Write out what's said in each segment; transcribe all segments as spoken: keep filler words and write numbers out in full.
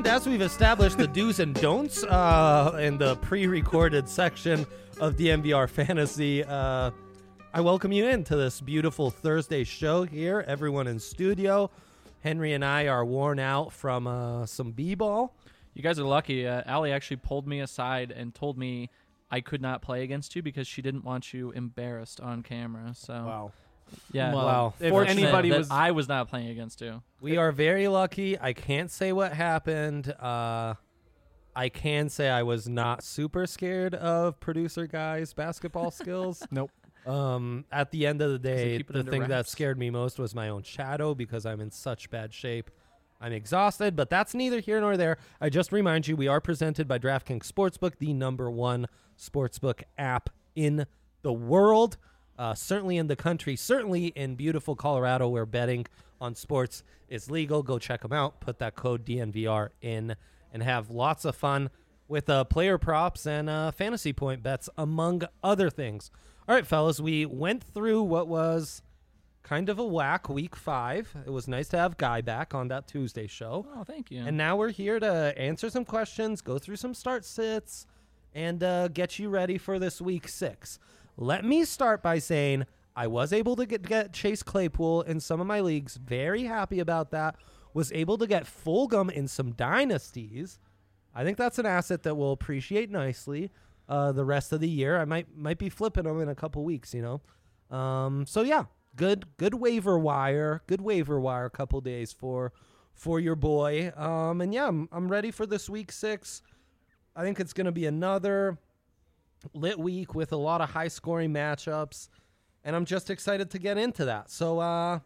And as we've established the do's and don'ts uh, in the pre-recorded section of D N V R Fantasy, uh, I welcome you into this beautiful Thursday show here. Everyone in studio. Henry and I are worn out from uh, some b-ball. You guys are lucky. Uh, Allie actually pulled me aside and told me I could not play against you because she didn't want you embarrassed on camera. So Wow. Yeah. Well, wow. If Fortunate anybody that was, I was not playing against you. We are very lucky. I can't say what happened. Uh, I can say I was not super scared of producer guy's basketball skills. Nope. Um, at the end of the day, keep it the under thing that wraps? scared me most was my own shadow because I'm in such bad shape. I'm exhausted, but that's neither here nor there. I just remind you, we are presented by DraftKings Sportsbook, the number one sportsbook app in the world. Uh, certainly in the country, certainly in beautiful Colorado where betting on sports is legal. Go check them out. Put that code D N V R in and have lots of fun with uh, player props and uh, fantasy point bets, among other things. All right, fellas, we went through what was kind of a whack week five. It was nice to have Guy back on that Tuesday show. Oh, thank you. And now we're here to answer some questions, go through some start sits, and uh, get you ready for this week six. Let me start by saying I was able to get, get Chase Claypool in some of my leagues. Very happy about that. Was able to get Fulgham in some dynasties. I think that's an asset that will appreciate nicely uh, the rest of the year. I might might be flipping him in a couple weeks, you know. Um, so yeah, good good waiver wire, good waiver wire. Couple days for for your boy. Um, and yeah, I'm I'm ready for this week six. I think it's going to be another lit week with a lot of high scoring matchups, and I'm just excited to get into that. So uh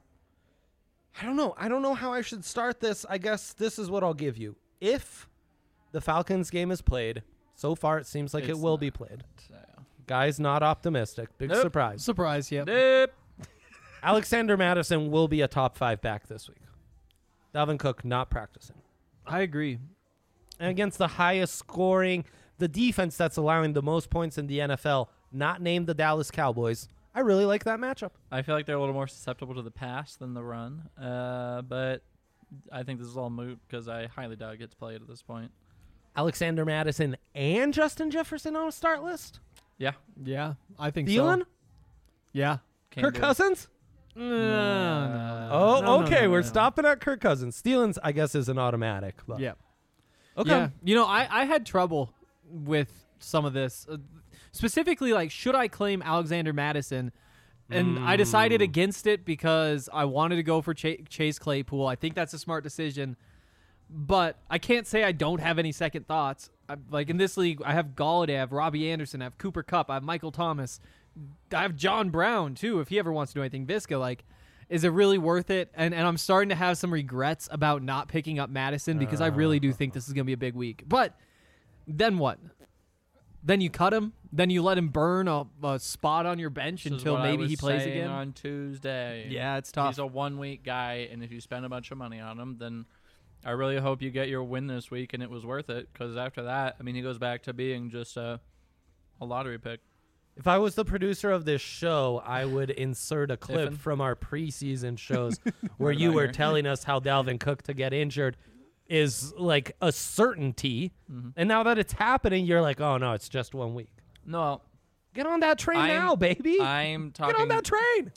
I don't know. I don't know how I should start this. I guess this is what I'll give you. If the Falcons game is played, so far it seems like It's it will not. be played. So. Guy's not optimistic. Big Nope. surprise. Surprise, yeah. Nope. Alexander Madison will be a top five back this week. Dalvin Cook not practicing. I agree. And against the highest scoring, the defense that's allowing the most points in the N F L, not named the Dallas Cowboys. I really like that matchup. I feel like they're a little more susceptible to the pass than the run. Uh, but I think this is all moot because I highly doubt it gets played at this point. Alexander Madison and Justin Jefferson on a start list? Yeah. Yeah, I think Thielen? so. Yeah. Can Kirk do. Cousins? No, no, no. Oh, No, no, okay. no, We're no. stopping at Kirk Cousins. Thielens, I guess, is an automatic. But Yeah. Okay. Yeah. You know, I, I had trouble with some of this. Uh, specifically, like, should I claim Alexander Madison? And I decided Mm. against it because I wanted to go for Ch- Chase Claypool. I think that's a smart decision. But I can't say I don't have any second thoughts. I, like, in this league, I have Galladay, I have Robbie Anderson, I have Cooper Kupp, I have Michael Thomas. I have John Brown, too, if he ever wants to do anything. Visca, like, is it really worth it? And and I'm starting to have some regrets about not picking up Madison because I really do think this is going to be a big week. But then what? Then you cut him? Then you let him burn a, a spot on your bench This is until what I maybe was he plays saying again? on Tuesday. Yeah, it's tough. He's a one-week guy, and if you spend a bunch of money on him, then I really hope you get your win this week, and it was worth it. Because after that, I mean, he goes back to being just a, a lottery pick. If I was the producer of this show, I would insert a clip Tiffin? from our preseason shows where Right you on were here. telling us how Dalvin Cook to get injured is like a certainty. Mhm. And now that it's happening, you're like, oh, no, it's just one week. No, Get on that train I'm- now, baby. I'm talking. Get on that train.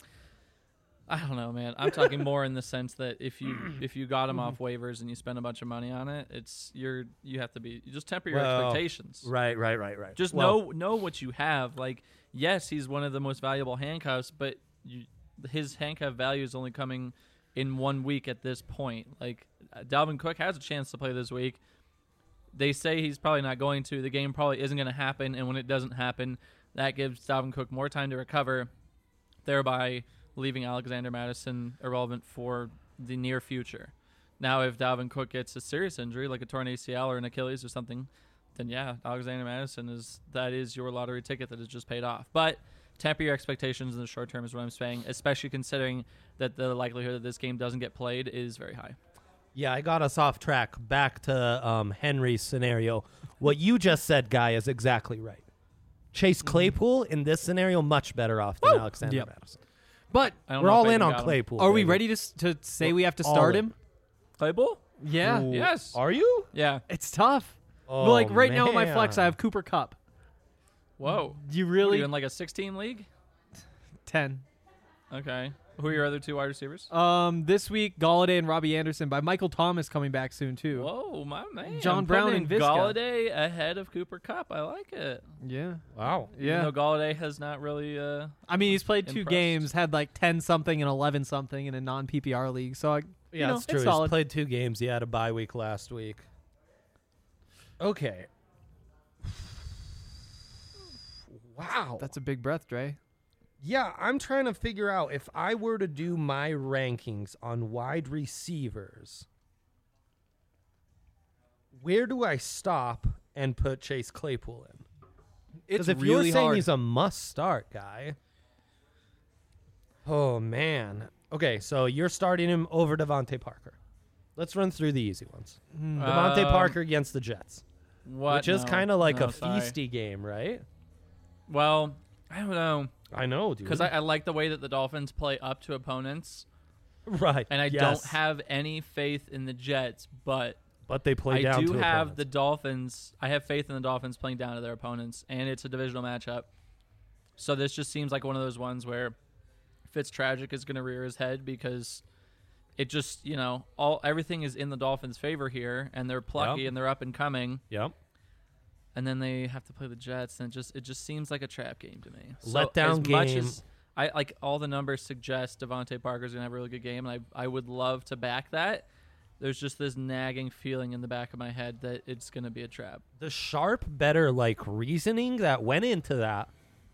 I don't know, man. I'm talking more in the sense that if you if you got him off waivers and you spend a bunch of money on it, it's you're you have to be you just temper your Well, expectations. Right, right, right, right. Just Well, know know what you have. Like, yes, he's one of the most valuable handcuffs, but you, his handcuff value is only coming in one week at this point. Like, uh, Dalvin Cook has a chance to play this week. They say he's probably not going to. The game probably isn't going to happen, and when it doesn't happen, that gives Dalvin Cook more time to recover, thereby leaving Alexander Madison irrelevant for the near future. Now, if Dalvin Cook gets a serious injury, like a torn A C L or an Achilles or something, then yeah, Alexander Madison is that is your lottery ticket that is just paid off. But temper your expectations in the short term is what I'm saying, especially considering that the likelihood that this game doesn't get played is very high. Yeah, I got us off track. Back to um, Henry's scenario. What you just said, Guy, is exactly right. Chase Claypool in this scenario much better off than Woo! Alexander Yep. Madison. But I don't We're know if all I in even on got him. Claypool. are we baby. ready to s- to say We're we have to all start in. him? Claypool? Yeah. Ooh, Yes. Are you? Yeah. It's tough. Oh, But like right now in my flex, I man. have Cooper Cup. Whoa. Do you What, are really? you in like a sixteen league? ten. Okay. Who are your other two wide receivers? Um, this week, Galladay and Robbie Anderson. By Michael Thomas coming back soon too. Whoa, my man. John Brown Putting and Visca. Galladay ahead of Cooper Cup. I like it. Yeah. Wow. Yeah. Even though Galladay has not really. Uh, I mean, he's played two Impressed. games, had like ten something and eleven something in a non P P R league. So I, Yeah, you know, that's true. it's He's solid. played two games. He had a bye week last week. Okay. Wow. That's a big breath, Dre. Yeah, I'm trying to figure out if I were to do my rankings on wide receivers, where do I stop and put Chase Claypool in? It's Because if really you're saying hard. he's a must-start guy, oh man. Okay, so you're starting him over Devontae Parker. Let's run through the easy ones. Hmm. Devontae Um, Parker against the Jets, what? which is No, kind of like no, a sorry. feisty game, right? Well, I don't know. I know, dude. Because I, I like the way that the Dolphins play up to opponents, right, and I yes. don't have any faith in the Jets, but But they play I down do to have opponents. the Dolphins. I have faith in the Dolphins playing down to their opponents, and it's a divisional matchup. So this just seems like one of those ones where Fitztragic is going to rear his head because it just, you know, all everything is in the Dolphins' favor here, and they're plucky Yep. and they're up and coming, Yep. and then they have to play the Jets, and it just it just seems like a trap game to me. Letdown as much game. as I like all the numbers suggest Devontae Parker's gonna have a really good game, and I I would love to back that. There's just this nagging feeling in the back of my head that it's gonna be a trap. The sharp, better like reasoning that went into that.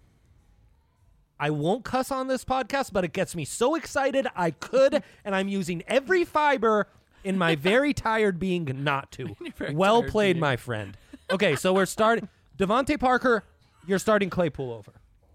I won't cuss on this podcast, but it gets me so excited I could, and I'm using every fiber in my very tired being not to. You're very Well tired played, being. my friend. Okay, so we're starting. Devontae Parker, you're starting Claypool over.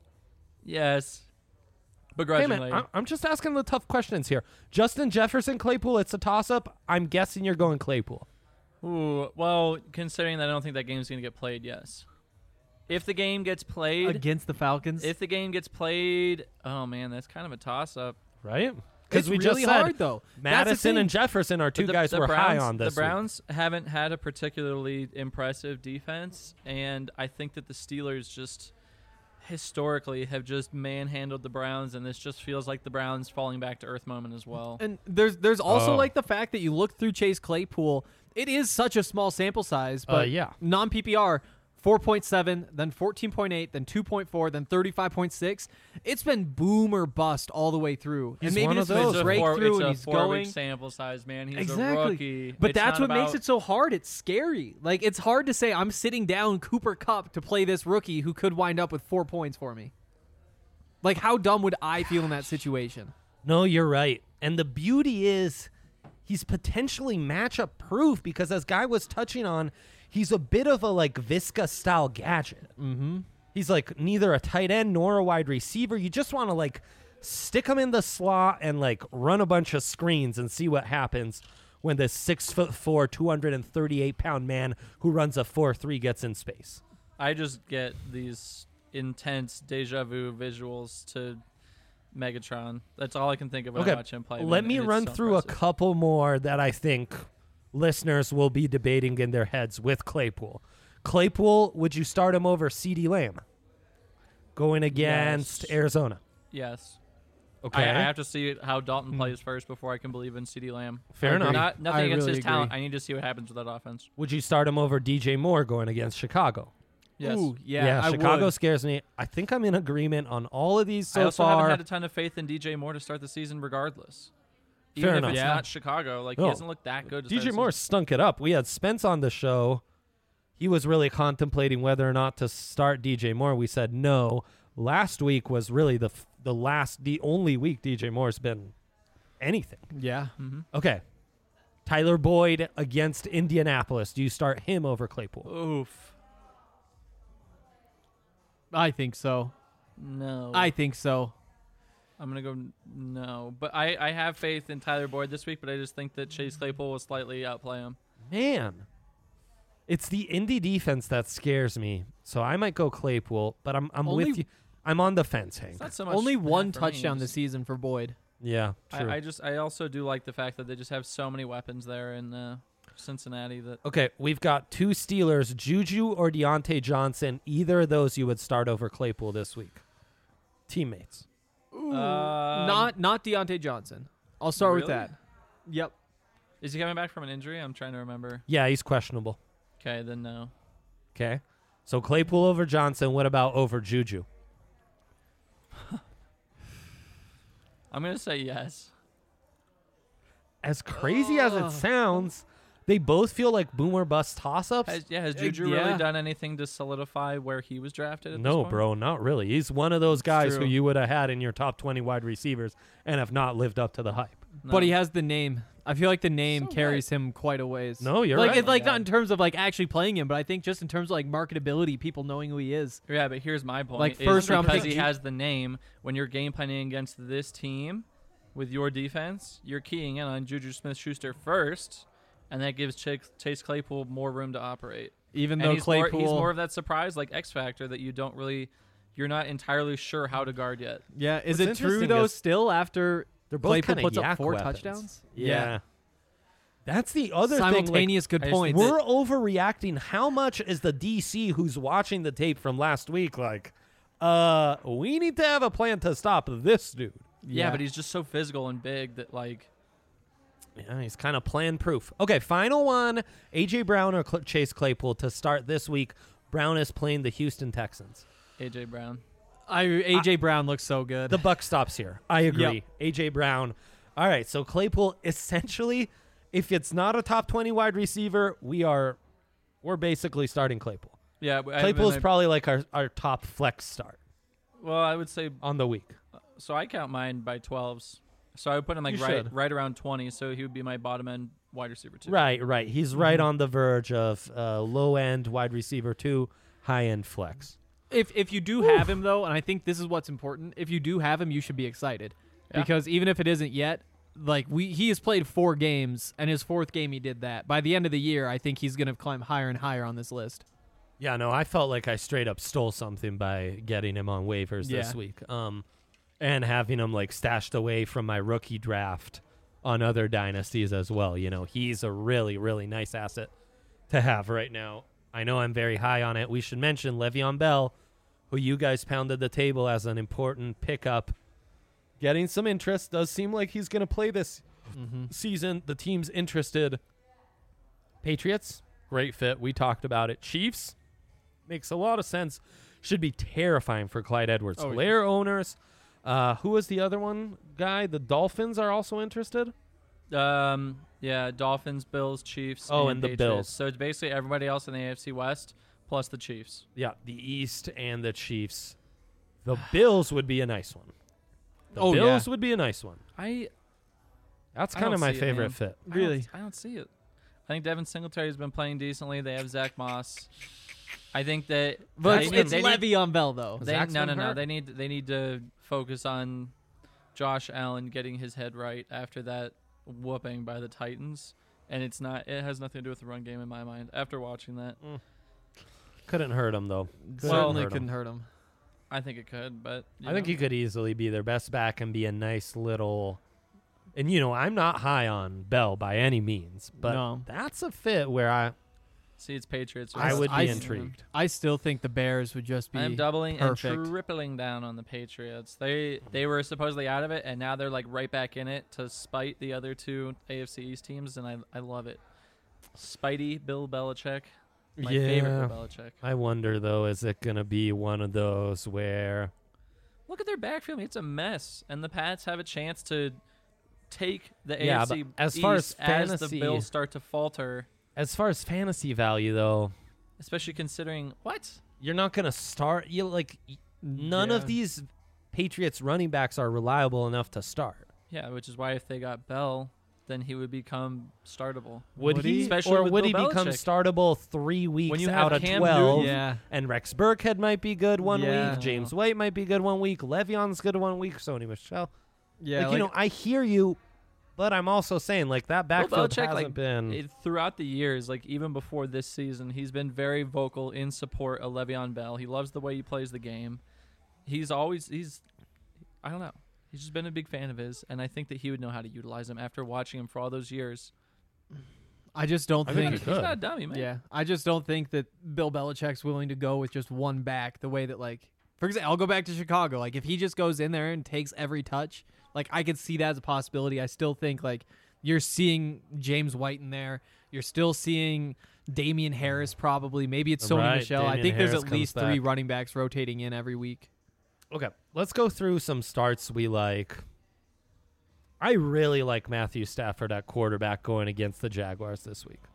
Yes, Hey, begrudgingly. man, I- I'm just asking the tough questions here. Justin Jefferson, Claypool, it's a toss-up. I'm guessing you're going Claypool. Ooh, well, considering that I don't think that game's gonna get played, yes. If the game gets played, against the Falcons. if the game gets played, oh man, that's kind of a toss-up. Right? It's we really just said hard though. That's the Madison and thing. Jefferson are two But the- guys the we're high Browns- on this The week. Browns haven't had a particularly impressive defense, and I think that the Steelers just historically have just manhandled the Browns, and this just feels like the Browns falling back to earth moment as well. And there's there's also Oh. like the fact that you look through Chase Claypool. It is such a small sample size, Uh, but yeah. non P P R. four point seven, then fourteen point eight, then two point four, then thirty-five point six. It's been boom or bust all the way through. He's and maybe one this of is those. a It's a breakthrough four, it's and a he's four going. week sample size, man. He's Exactly. a rookie. But It's that's not what makes about- it so hard. It's scary. Like, it's hard to say I'm sitting down Cooper Kupp to play this rookie who could wind up with four points for me. Like, how dumb would I feel in that situation? No, you're right. And the beauty is he's potentially matchup proof because as Guy was touching on, he's a bit of a like Visca style gadget. Mm-hmm. He's like neither a tight end nor a wide receiver. You just want to like stick him in the slot and like run a bunch of screens and see what happens when this six foot four, two hundred thirty-eight pound man who runs a four three gets in space. I just get these intense deja vu visuals to Megatron. That's all I can think of when Okay, I watch him play. let man, me and it's run so through impressive. a couple more that I think listeners will be debating in their heads with Claypool. Claypool, would you start him over CeeDee Lamb going against Yes. Arizona? Yes. Okay, I, I have to see how Dalton plays first before I can believe in CeeDee Lamb. fair enough. Not nothing I against really his talent. agree. I need to see what happens with that offense. Would you start him over D J Moore going against Chicago? Yes. Ooh, yeah, I Chicago would. scares me. I think I'm in agreement on all of these so I also far. haven't had a ton of faith in D J Moore to start the season, regardless. Fair Even enough. if it's Yeah. not Chicago, like No. he doesn't look that good. to D start J the Moore season. stunk it up. We had Spence on the show. He was really contemplating whether or not to start D J Moore. We said no. Last week was really the f- the last, the only week D J Moore's been anything. Yeah. Mhm. Okay. Tyler Boyd against Indianapolis. Do you start him over Claypool? Oof. I think so. No. I think so. I'm gonna go n- no, but I I have faith in Tyler Boyd this week, but I just think that Chase Claypool will slightly outplay him. Man. It's the Indy defense that scares me. So I might go Claypool, but I'm I'm Only- with you. I'm on the fence, Hank. It's not so much Only that one for me, touchdown just- this season for Boyd. Yeah, true. I, I just I also do like the fact that they just have so many weapons there in uh, Cincinnati that Okay, we've got two Steelers, Juju or Deontay Johnson. Either of those you would start over Claypool this week. Teammates. Ooh, Um, not not Deontay Johnson. I'll start with really? that. Yep. is he coming back from an injury? I'm trying to remember. Yeah, he's questionable. Okay, then no. Okay. So Claypool over Johnson. What about over Juju? I'm gonna say yes. As crazy as it Ugh. sounds, they both feel like boomer bust toss-ups. Has, yeah, has Uh, Juju yeah. really done anything to solidify where he was drafted? At this No, point? bro, not really. He's one of those guys who true. you would have had in your top twenty wide receivers and have not lived up to the hype. No. But he has the name. I feel like the name So carries him quite a ways. No, you're like right. it's like Yeah. not in terms of like actually playing him, but I think just in terms of like marketability, people knowing who he is. Yeah, but here's my point. Like, is first round because pick, he Ju- has the name. When you're game planning against this team with your defense, you're keying in on Juju Smith-Schuster first, and that gives Chase, Chase Claypool more room to operate. Even And though he's more, Claypool, he's more of that surprise, like X factor that you don't really, you're not entirely sure how to guard yet. yeah, is What's it true interesting though? is Still after They're both Claypool kind of puts up yak four weapons. touchdowns? Yeah. That's the other thing. Like, Simultaneous good I just points. think we're overreacting. How much is the D C who's watching the tape from last week like, uh, we need to have a plan to stop this dude? Yeah, but he's just so physical and big that like Yeah, he's kind of plan proof. Okay, final one. A J Brown or Cl- Chase Claypool to start this week. Brown is playing the Houston Texans. A J Brown. I A J Brown looks so good. The buck stops here. I agree. Yep. A J Brown. All right, so Claypool essentially, if it's not a top twenty wide receiver, we are we're basically starting Claypool. Yeah, I- Claypool's I- probably like our, our top flex start well, I would say on the week. so. I count mine by twelves, so I would put him like You right should. right around twenty. So he would be my bottom end wide receiver too. Right, right. He's right on the verge of uh, low end wide receiver two, high end flex. if if you do have him though, and I think this is what's important, if you do have him, you should be excited Yeah. because even if it isn't yet, like we he has played four games, and his fourth game he did that. By the end of the year, I think he's gonna climb higher and higher on this list. Yeah, no, I felt like I straight up stole something by getting him on waivers this Yeah. week, um, and having him like stashed away from my rookie draft on other dynasties as well. You know, he's a really, really nice asset to have right now. I know I'm very high on it. We should mention Le'Veon Bell, who you guys pounded the table as an important pickup, getting some interest. Does seem like he's going to play this Mm-hmm. season. The team's interested. Patriots, great fit. We talked about it. Chiefs, makes a lot of sense. Should be terrifying for Clyde Edwards. Oh, yeah. Hilaire owners. Uh, who was the other one guy? The Dolphins are also interested. Um. Yeah. Dolphins, Bills, Chiefs. Oh, and, and the Patriots. Bills. So it's basically everybody else in the A F C West plus the Chiefs. Yeah, the East and the Chiefs. The Bills would be a nice one. The Oh, Bills yeah. would be a nice one. I That's I kind don't of my see it, favorite man. fit. I don't- Really? I don't see it. I think Devin Singletary's been playing decently. They have Zach Moss. I think that But they it's, need- it's they need- Le'Veon Bell though. They, Zach's no, no, been no. hurt. They need they need to focus on Josh Allen getting his head right after that whooping by the Titans, and it's not. It has nothing to do with the run game in my mind. After watching that, Couldn't hurt him though. Couldn't Certainly hurt him. couldn't hurt him. I think it could, but you I think know. he could easily be their best back and be a nice little. And you know, I'm not high on Bell by any means, but No. that's a fit where I see it's Patriots. I would be I- intrigued. I still think the Bears would just be. I'm doubling perfect. and tripling down on the Patriots. They they were supposedly out of it, and now they're like right back in it to spite the other two A F C East teams, and I I love it. Spidey Bill Belichick, my yeah. favorite Bill Belichick. I wonder though, is it gonna be one of those where Look at their backfield; it's a mess, and the Pats have a chance to take the Yeah, A F C but as far as East as the fantasy- Bills start to falter, as far as fantasy value though, especially considering what you're not gonna start you like y- none of Yeah. these Patriots running backs are reliable enough to start. yeah, which is why if they got Bell, then he would become startable. Would, Would he, he? Especially or with would Bill he become Belichick. startable three weeks you out have of Cam twelve? Newton- Yeah. And Rex Burkhead might be good one Yeah. week. James White might be good one week. Le'Veon's good one week. Sony Michelle. Yeah. like, you know, I hear you, but I'm also saying like that Bill backfield Belichick, hasn't like, been. it- throughout the years, like even before this season, he's been very vocal in support of Le'Veon Bell. He loves the way he plays the game. He's always he's, I don't know, He's just been a big fan of his, and I think that he would know how to utilize him after watching him for all those years. I just don't I think. think he He's could. not a dummy, man. Yeah, I just don't think that Bill Belichick's willing to go with just one back the way that, like, for example, I'll go back to Chicago. Like, if he just goes in there and takes every touch, like, I could see that as a possibility. I still think, like, you're seeing James White in there. You're still seeing Damian Harris probably. Maybe it's Sony Right, Michelle. I Damian think Harris there's at comes least three back. running backs rotating in every week. Okay, let's go through some starts we like. I really like Matthew Stafford at quarterback going against the Jaguars this week.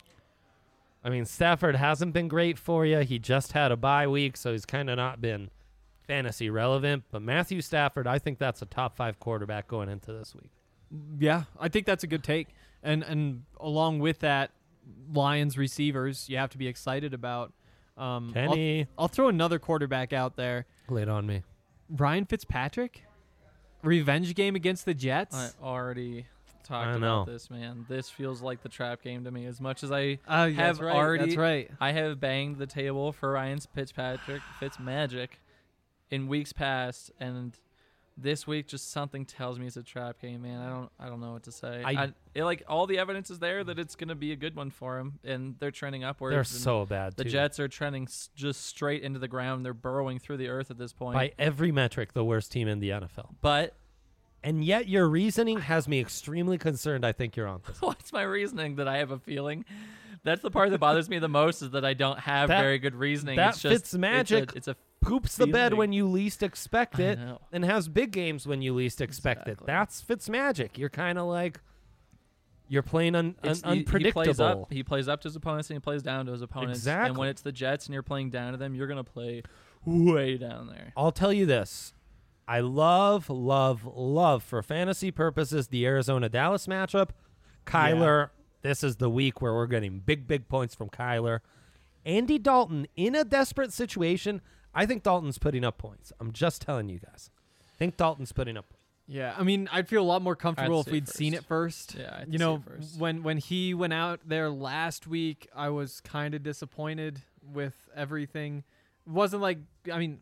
I mean, Stafford hasn't been great for you. He just had a bye week, so he's kind of not been fantasy relevant. But Matthew Stafford, I think that's a top five quarterback going into this week. Yeah, I think that's a good take. And and along with that, Lions receivers, you have to be excited about. Um, I'll- Kenny, I'll throw another quarterback out there. lay it on me. Ryan Fitzpatrick, revenge game against the Jets. I already talked I about know. this, man. This feels like the trap game to me. As much as I Uh, have that's right, already, That's right. I have banged the table for Ryan Fitzpatrick, Fitzmagic, in weeks past, and this week just something tells me it's a trap game, man. I don't, I don't know what to say. I- I, it, like all the evidence is there that it's gonna be a good one for him, and they're trending upwards. They're and so bad, The too. Jets are trending s- just straight into the ground. They're burrowing through the earth at this point. By every metric, the worst team in the N F L. But And yet your reasoning has me extremely concerned. I think you're on this. what's my reasoning that I have a feeling? That's the part that bothers me the most is that I don't have That- very good reasoning. that it's just, Fitzmagic It's a, it's a Poops the bed feeling. when you least expect I it know. and has big games when you least expect it. Exactly. That's Fitzmagic. You're kind of like you're playing un- un- It's- he- unpredictable. He plays, up, he plays up to his opponents and he plays down to his opponents. And Exactly. when it's the Jets and you're playing down to them, you're gonna play way down there. I'll tell you this. I love, love, love for fantasy purposes the Arizona Dallas matchup. Kyler, this is the week where we're getting big, big points from Kyler. Andy Dalton in a desperate situation. I think Dalton's putting up points. I'm just telling you guys. I think Dalton's putting up points. Yeah, I mean, I'd feel a lot more comfortable if see it we'd seen first. it first. Yeah, I'd you see know, it first. when when he went out there last week, I was kind of disappointed with everything. It wasn't like, I mean,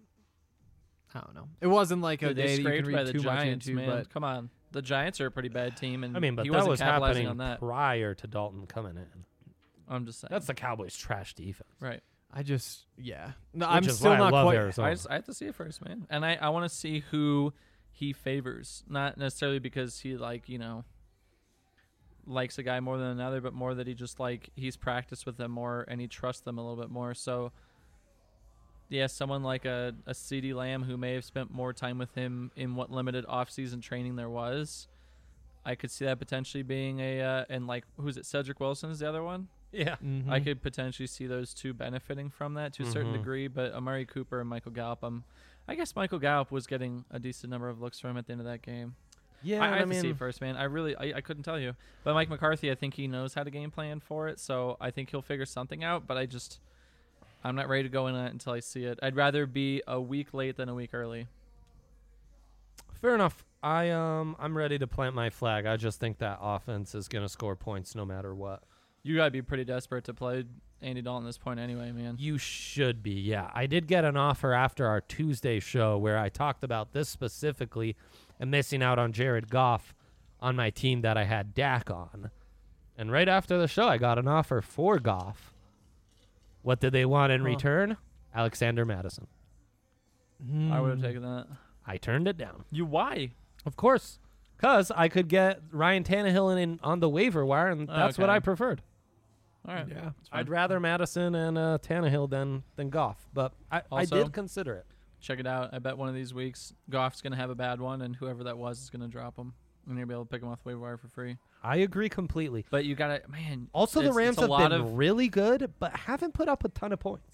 I don't know. It wasn't like a Dude, day they that you can scraped by read the too much Giants, into, man. but Come on, the Giants are a pretty bad team, and I mean, but he that wasn't was capitalizing happening on that. prior to Dalton coming in. I'm just saying. That's the Cowboys' trash defense. right. I just, yeah. No, Which I'm is still why I not love quite. Arizona. I, just, I have to see it first, man. And I, I want to see who he favors. Not necessarily because he, like, you know, likes a guy more than another, but more that he just, like, he's practiced with them more and he trusts them a little bit more. So, yeah, someone like a, a CeeDee Lamb who may have spent more time with him in what limited offseason training there was. I could see that potentially being a, uh, and, like, who's it? Cedric Wilson is the other one? Yeah. Mhm. I could potentially see those two benefiting from that to a certain Mhm. degree, but Amari Cooper and Michael Gallup, um, I guess Michael Gallup was getting a decent number of looks from him at the end of that game. Yeah, I, I I have to see mean, it first, man. I really, I, I couldn't tell you. But Mike McCarthy, I think he knows how to game plan for it, so I think he'll figure something out, but I just, I'm not ready to go in on it until I see it. I'd rather be a week late than a week early. fair enough. I um I'm ready to plant my flag. I just think that offense is going to score points no matter what. You gotta be pretty desperate to play Andy Dalton at this point anyway, man. You should be, yeah. I did get an offer after our Tuesday show where I talked about this specifically and missing out on Jared Goff on my team that I had Dak on. And right after the show, I got an offer for Goff. What did they want in Huh. return? Alexander Madison. I would have Hmm. taken that. I turned it down. You why? Of course, because I could get Ryan Tannehill in, in on the waiver wire, and that's what Okay. I preferred. All right. Yeah. It's fine. I'd rather Madison and uh, Tannehill than than Goff, but I, I Also- did consider it. Check it out. I bet one of these weeks Goff's gonna have a bad one, and whoever that was is gonna drop him, and you'll be able to pick him off the waiver wire for free. I agree completely. But you gotta, man. Also, the it's- Rams it's a have lot been of, really good, but haven't put up a ton of points.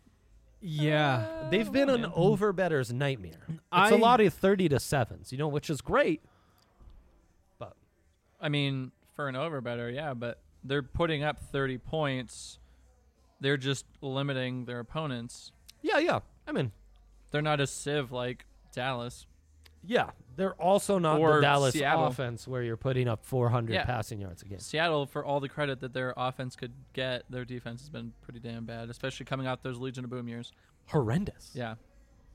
Yeah. Uh, They've been an man. over better's nightmare. It's I- a lot of thirty to sevens, you know, which is great. But I mean, for an over better, yeah, but they're putting up thirty points. They're just limiting their opponents. yeah, yeah. I mean, They're not a sieve like Dallas. yeah, they're also not Or the Dallas Seattle. offense where you're putting up four hundred Yeah. passing yards a game. Seattle, for all the credit that their offense could get, their defense has been pretty damn bad, especially coming out those Legion of Boom years. Horrendous. Yeah.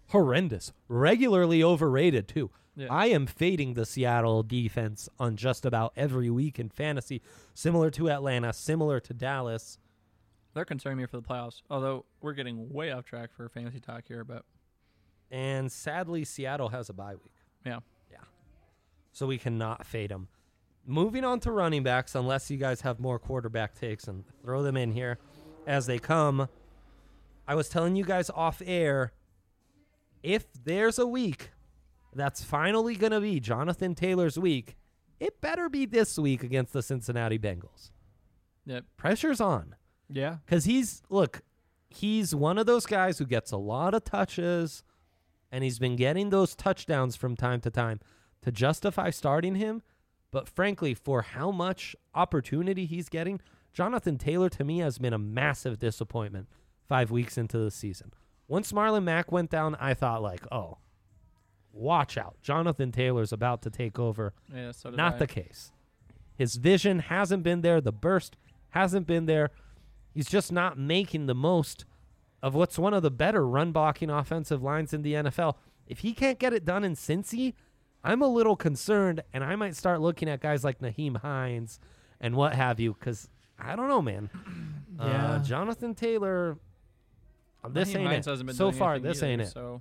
horrendous, regularly overrated too. Yeah. I am fading the Seattle defense on just about every week in fantasy, similar to Atlanta, similar to Dallas. They're concerning me for the playoffs. Although we're getting way off track for fantasy talk here, but And sadly, Seattle has a bye week. yeah. Yeah. So we cannot fade them. Moving on to running backs, unless you guys have more quarterback takes, and throw them in here as they come. I was telling you guys off air, if there's a week that's finally going to be Jonathan Taylor's week, it better be this week against the Cincinnati Bengals. Yep. Pressure's on. Yeah. Because he's, look, he's one of those guys who gets a lot of touches, and he's been getting those touchdowns from time to time to justify starting him. But frankly, for how much opportunity he's getting, Jonathan Taylor to me has been a massive disappointment five weeks into the season. Once Marlon Mack went down, I thought like, oh, watch out. Jonathan Taylor's about to take over. Yeah, so did Not I. the case. His vision hasn't been there. The burst hasn't been there. He's just not making the most of what's one of the better run blocking offensive lines in the N F L. If he can't get it done in Cincy, I'm a little concerned, and I might start looking at guys like Naheem Hines and what have you, because I don't know, man. Yeah. Uh, Jonathan Taylor, this Naheem ain't Hines it. hasn't been So doing far, anything this either, ain't it. So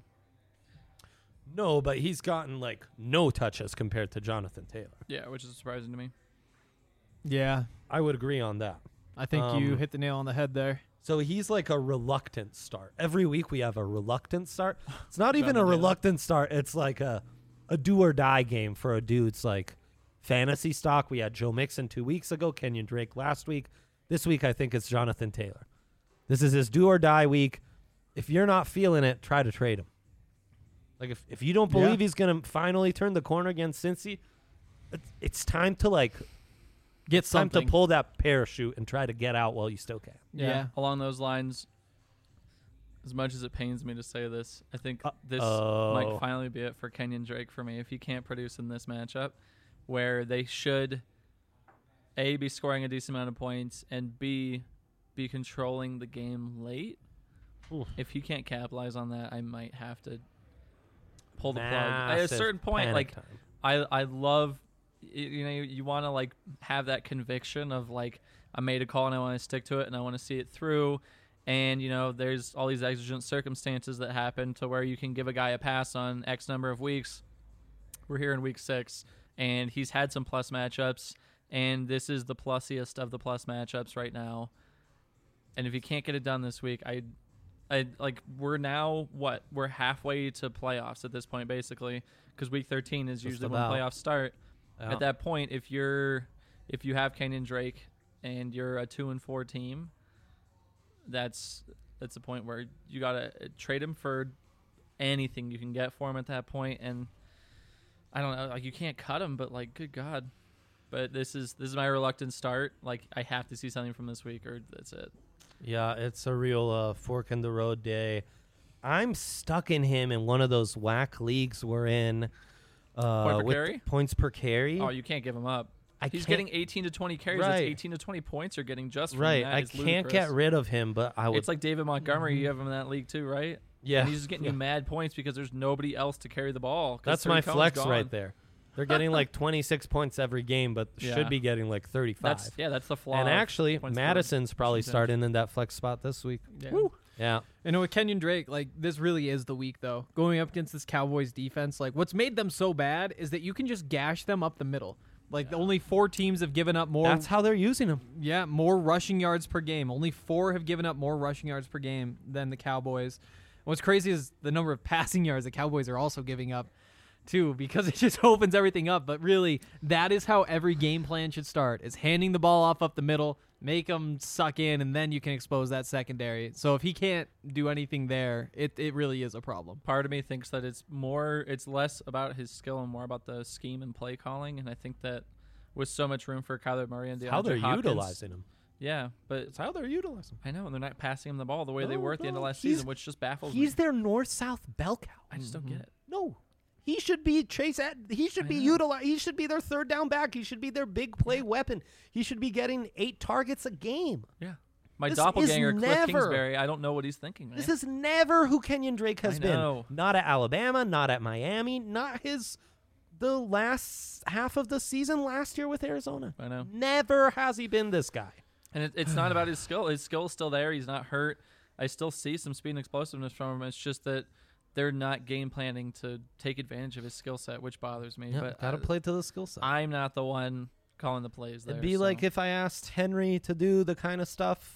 No, but he's gotten like no touches compared to Jonathan Taylor. yeah, which is surprising to me. Yeah. I would agree on that. I think you Um, hit the nail on the head there. So he's like a reluctant start. Every week we have a reluctant start. It's not even a Jonathan Taylor. reluctant start. It's like a, a do or die game for a dude's like fantasy stock. We had Joe Mixon two weeks ago, Kenyon Drake last week. This week I think it's Jonathan Taylor. This is his do or die week. If you're not feeling it, try to trade him. Like if, if you don't believe Yeah. he's going to finally turn the corner against Cincy, it's, it's time to like Get time something. to pull that parachute and try to get out while you still can. Yeah. Yeah. Along those lines, as much as it pains me to say this, I think Uh, this oh. might finally be it for Kenyon Drake for me. If he can't produce in this matchup, where they should A, be scoring a decent amount of points, and B, be controlling the game late. Oof. If he can't capitalize on that, I might have to pull the plug. At a Massive certain point, panic like time. I I love y- you know you, you want to like have that conviction of like I made a call and I want to stick to it and I want to see it through, and you know there's all these exigent circumstances that happen to where you can give a guy a pass on X number of weeks. We're here in week six and he's had some plus matchups, and this is the plusiest of the plus matchups right now. And if he can't get it done this week, I I like we're now what we're halfway to playoffs at this point basically, because week thirteen is Just usually about. when playoffs start. Yeah. At that point, if you're if you have Kenyon Drake and you're a two and four team, that's that's the point where you gotta trade him for anything you can get for him at that point. And I don't know, like you can't cut him, but like good God. But this is this is my reluctant start. Like I have to see something from this week, or that's it. Yeah, it's a real uh, fork in the road day. I'm stuck in him in one of those whack leagues we're in. Uh, Point per with carry? Points per carry. Oh, you can't give him up. I He's can't- getting eighteen to twenty carries. Right. That's eighteen to twenty points are getting just from right. that. I It's can't ludicrous. get rid of him, but I would. It's like David Montgomery. You have him in that league too, right? yeah, And he's just getting yeah. you mad points because there's nobody else to carry the ball. 'cause That's Terry my Cohen's flex gone. right there. They're getting like twenty-six points every game, but Yeah. should be getting like thirty-five. That's yeah, that's the flaw. and of actually, points per Madison's probably percentage. starting in that flex spot this week. Yeah. Woo. Yeah. And with Kenyon Drake, like this really is the week though. Going up against this Cowboys defense, like what's made them so bad is that you can just gash them up the middle. Like the only four teams have given up more. That's how they're using him. Yeah, more rushing yards per game. Only four have given up more rushing yards per game than the Cowboys. What's crazy is the number of passing yards the Cowboys are also giving up, too, because it just opens everything up. But really, that is how every game plan should start: is handing the ball off up the middle, make them suck in, and then you can expose that secondary. So if he can't do anything there, it it really is a problem. Part of me thinks that it's more, it's less about his skill and more about the scheme and play calling. And I think that with so much room for Kyler Murray and DeAndre How they're Hopkins, utilizing him. yeah, but It's how they're utilizing him. I know, and they're not passing him the ball the way they No, were at the end of no, last he's- season, which just baffles He's me. their north-south bell cow. I just don't get it. No. He should be Chase at he should I be know. utilized. He should be their third down back. He should be their big play weapon. He should be getting eight targets a game. Yeah. My This doppelganger, is Cliff never- Kingsbury, I don't know what he's thinking, man. This is never who Kenyon Drake has I been. know. Not at Alabama, not at Miami, not his the last half of the season last year with Arizona. I know. Never has he been this guy. And it, it's not about his skill. His skill's still there. He's not hurt. I still see some speed and explosiveness from him. It's just that they're not game planning to take advantage of his skill set, which bothers me. Yeah, but gotta uh, play to the skill set. I'm not the one calling the plays there. It'd be so. like if I asked Henry to do the kind of stuff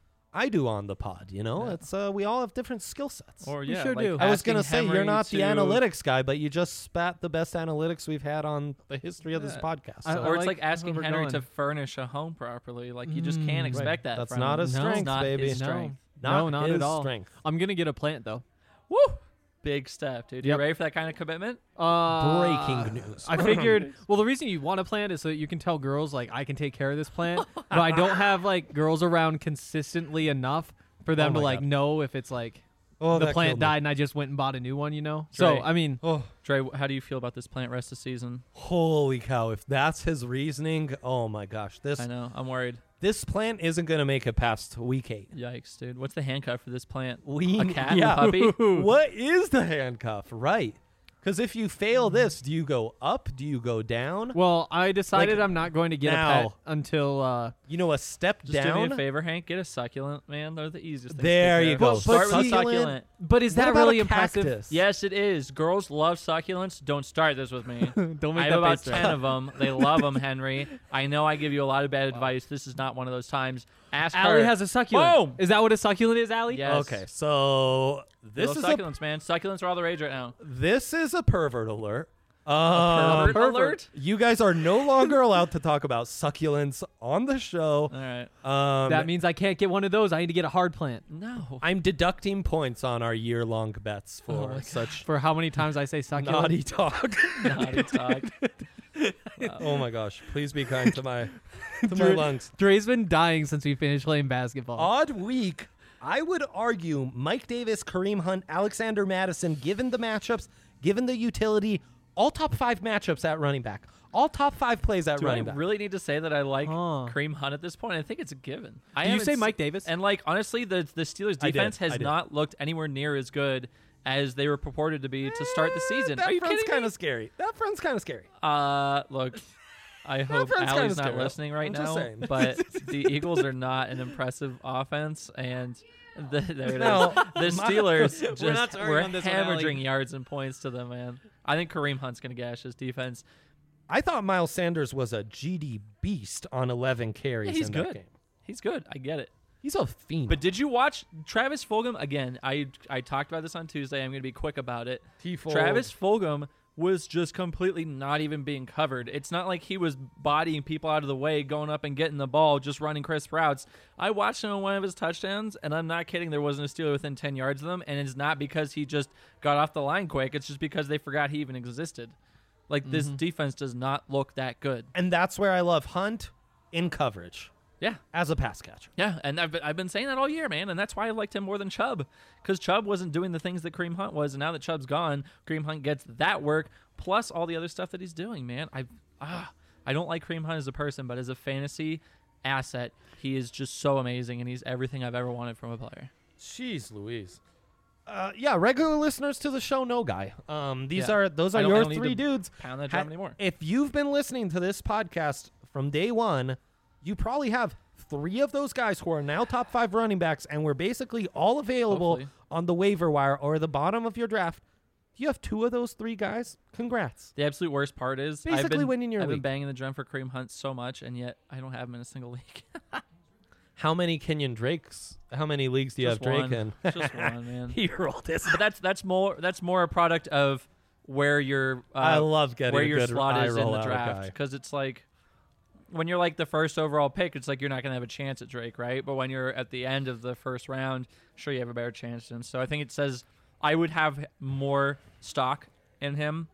I do on the pod, you know? Yeah. It's uh, we all have different skill sets. Or You yeah, sure like do. I was asking gonna say Henry you're not the to- analytics guy, but you just spat the best analytics we've had on the history of this Yeah. podcast. I- So- I Or it's like like asking where we're Henry going. to furnish a home properly. Like you just Mm. can't Right. expect that. That's from not him. his No. strength, It's not baby. his No. strength. Not No, not his at all. strength. I'm gonna get a plant though. Woo! Big step, dude. Yep. You ready for that kind of commitment? Uh, Breaking news. I figured. Well, the reason you want a plant is so that you can tell girls like I can take care of this plant, but I don't have like girls around consistently enough for them Oh to my like God. know if it's like Oh, the that plant killed me. died and I just went and bought a new one. You know. So Right. I mean, Oh, Dre, how do you feel about this plant rest of season? holy cow! If that's his reasoning, oh my gosh, this I know. I'm worried. this plant isn't gonna make it past week eight. Yikes, dude. What's the handcuff for this plant? We, A cat? yeah. A puppy? What is the handcuff? Right? Because if you fail this, do you go up? Do you go down? well, I decided Like, I'm not going to get a now- pet until. Uh, You know, a step Just down. do me a favor, Hank. Get a succulent, man. They're the easiest. things to There take you care of. go. Start But with a succulent- succulent. but is What that about really a impressive? cactus? Yes, it is. Girls love succulents. Don't start this with me. Don't I make have that about face. ten of them. They love them, Henry. I know I give you a lot of bad advice. This is not one of those times. Ask Allie her. has a succulent. Boom! Is that what a succulent is, Allie? Yes. Okay, so This this is a succulents, man. Succulents are all the rage right now. this is a pervert alert. Um, Pervert alert. You guys are no longer allowed to talk about succulents on the show. All right. Um, That means I can't get one of those. I need to get a hard plant. No. I'm deducting points on our year-long bets Oh for my such For how many times I say succulent? naughty talk. Naughty talk. Oh my gosh! Please be kind to my to my Drew- lungs. Dre's been dying since we finished playing basketball. Odd week. I would argue Mike Davis, Kareem Hunt, Alexander Madison, given the matchups, given the utility, all top five matchups at running back, all top five plays at Do I running back. really need to say that I like Huh. Kareem Hunt at this point? I think it's a given. I Did you haven't say s- Mike Davis? And like honestly, the the Steelers I did, defense I has did. not looked anywhere near as good as they were purported to be to start the season. That Are you front's kidding kind me? of scary. That front's kind of scary. Uh, look, I hope front's kinda Allie's not scary. listening right I'm just now, saying. but the Eagles are not an impressive offense, and the, there it is. No, The my- Steelers We're just not starting were on this one, Allie. hemorrhaging yards and points to them, man. I think Kareem Hunt's gonna gash his defense. I thought Miles Sanders was a G D beast on eleven carries Yeah, he's in good. that game. He's good. I get it. He's a fiend. But did you watch Travis Fulgham again? I I talked about this on Tuesday. I'm going to be quick about it. T-Fold. Travis Fulgham was just completely not even being covered. It's not like he was bodying people out of the way, going up and getting the ball, just running crisp routes. I watched him on one of his touchdowns, and I'm not kidding. There wasn't a Steeler within ten yards of them, and it's not because he just got off the line quick. It's just because they forgot he even existed. Like, this defense does not look that good. and that's where I love Hunt in coverage Yeah. as a pass catcher. Yeah, and I've been, I've been saying that all year, man, and that's why I liked him more than Chubb, because Chubb wasn't doing the things that Kareem Hunt was, and now that Chubb's gone, Kareem Hunt gets that work plus all the other stuff that he's doing, man. I ah, I don't like Kareem Hunt as a person, but as a fantasy asset, he is just so amazing, and he's everything I've ever wanted from a player. Jeez Louise. Uh, yeah, regular listeners to the show know Guy. Um, these Yeah. are those I are don't- I your don't need three to dudes. Pound that Ha- drum anymore. If you've been listening to this podcast from day one, you probably have three of those guys who are now top five running backs, and we're basically all available Hopefully. on the waiver wire or the bottom of your draft. If you have two of those three guys, congrats. The absolute worst part is I've Basically been, winning your I've been league. banging the drum for Kareem Hunt so much, and yet I don't have him in a single league. How many Kenyon Drakes? How many leagues do you Just have Drake one. in? Just one, man. He rolled his. But that's that's more that's more a product of where your uh, I love getting where a your good slot eye is in roll the out of draft, Guy. because it's like when you're like the first overall pick, it's like you're not gonna have a chance at Drake, right? But when you're at the end of the first round, sure you have a better chance at him. So I think it says I would have more stock in him.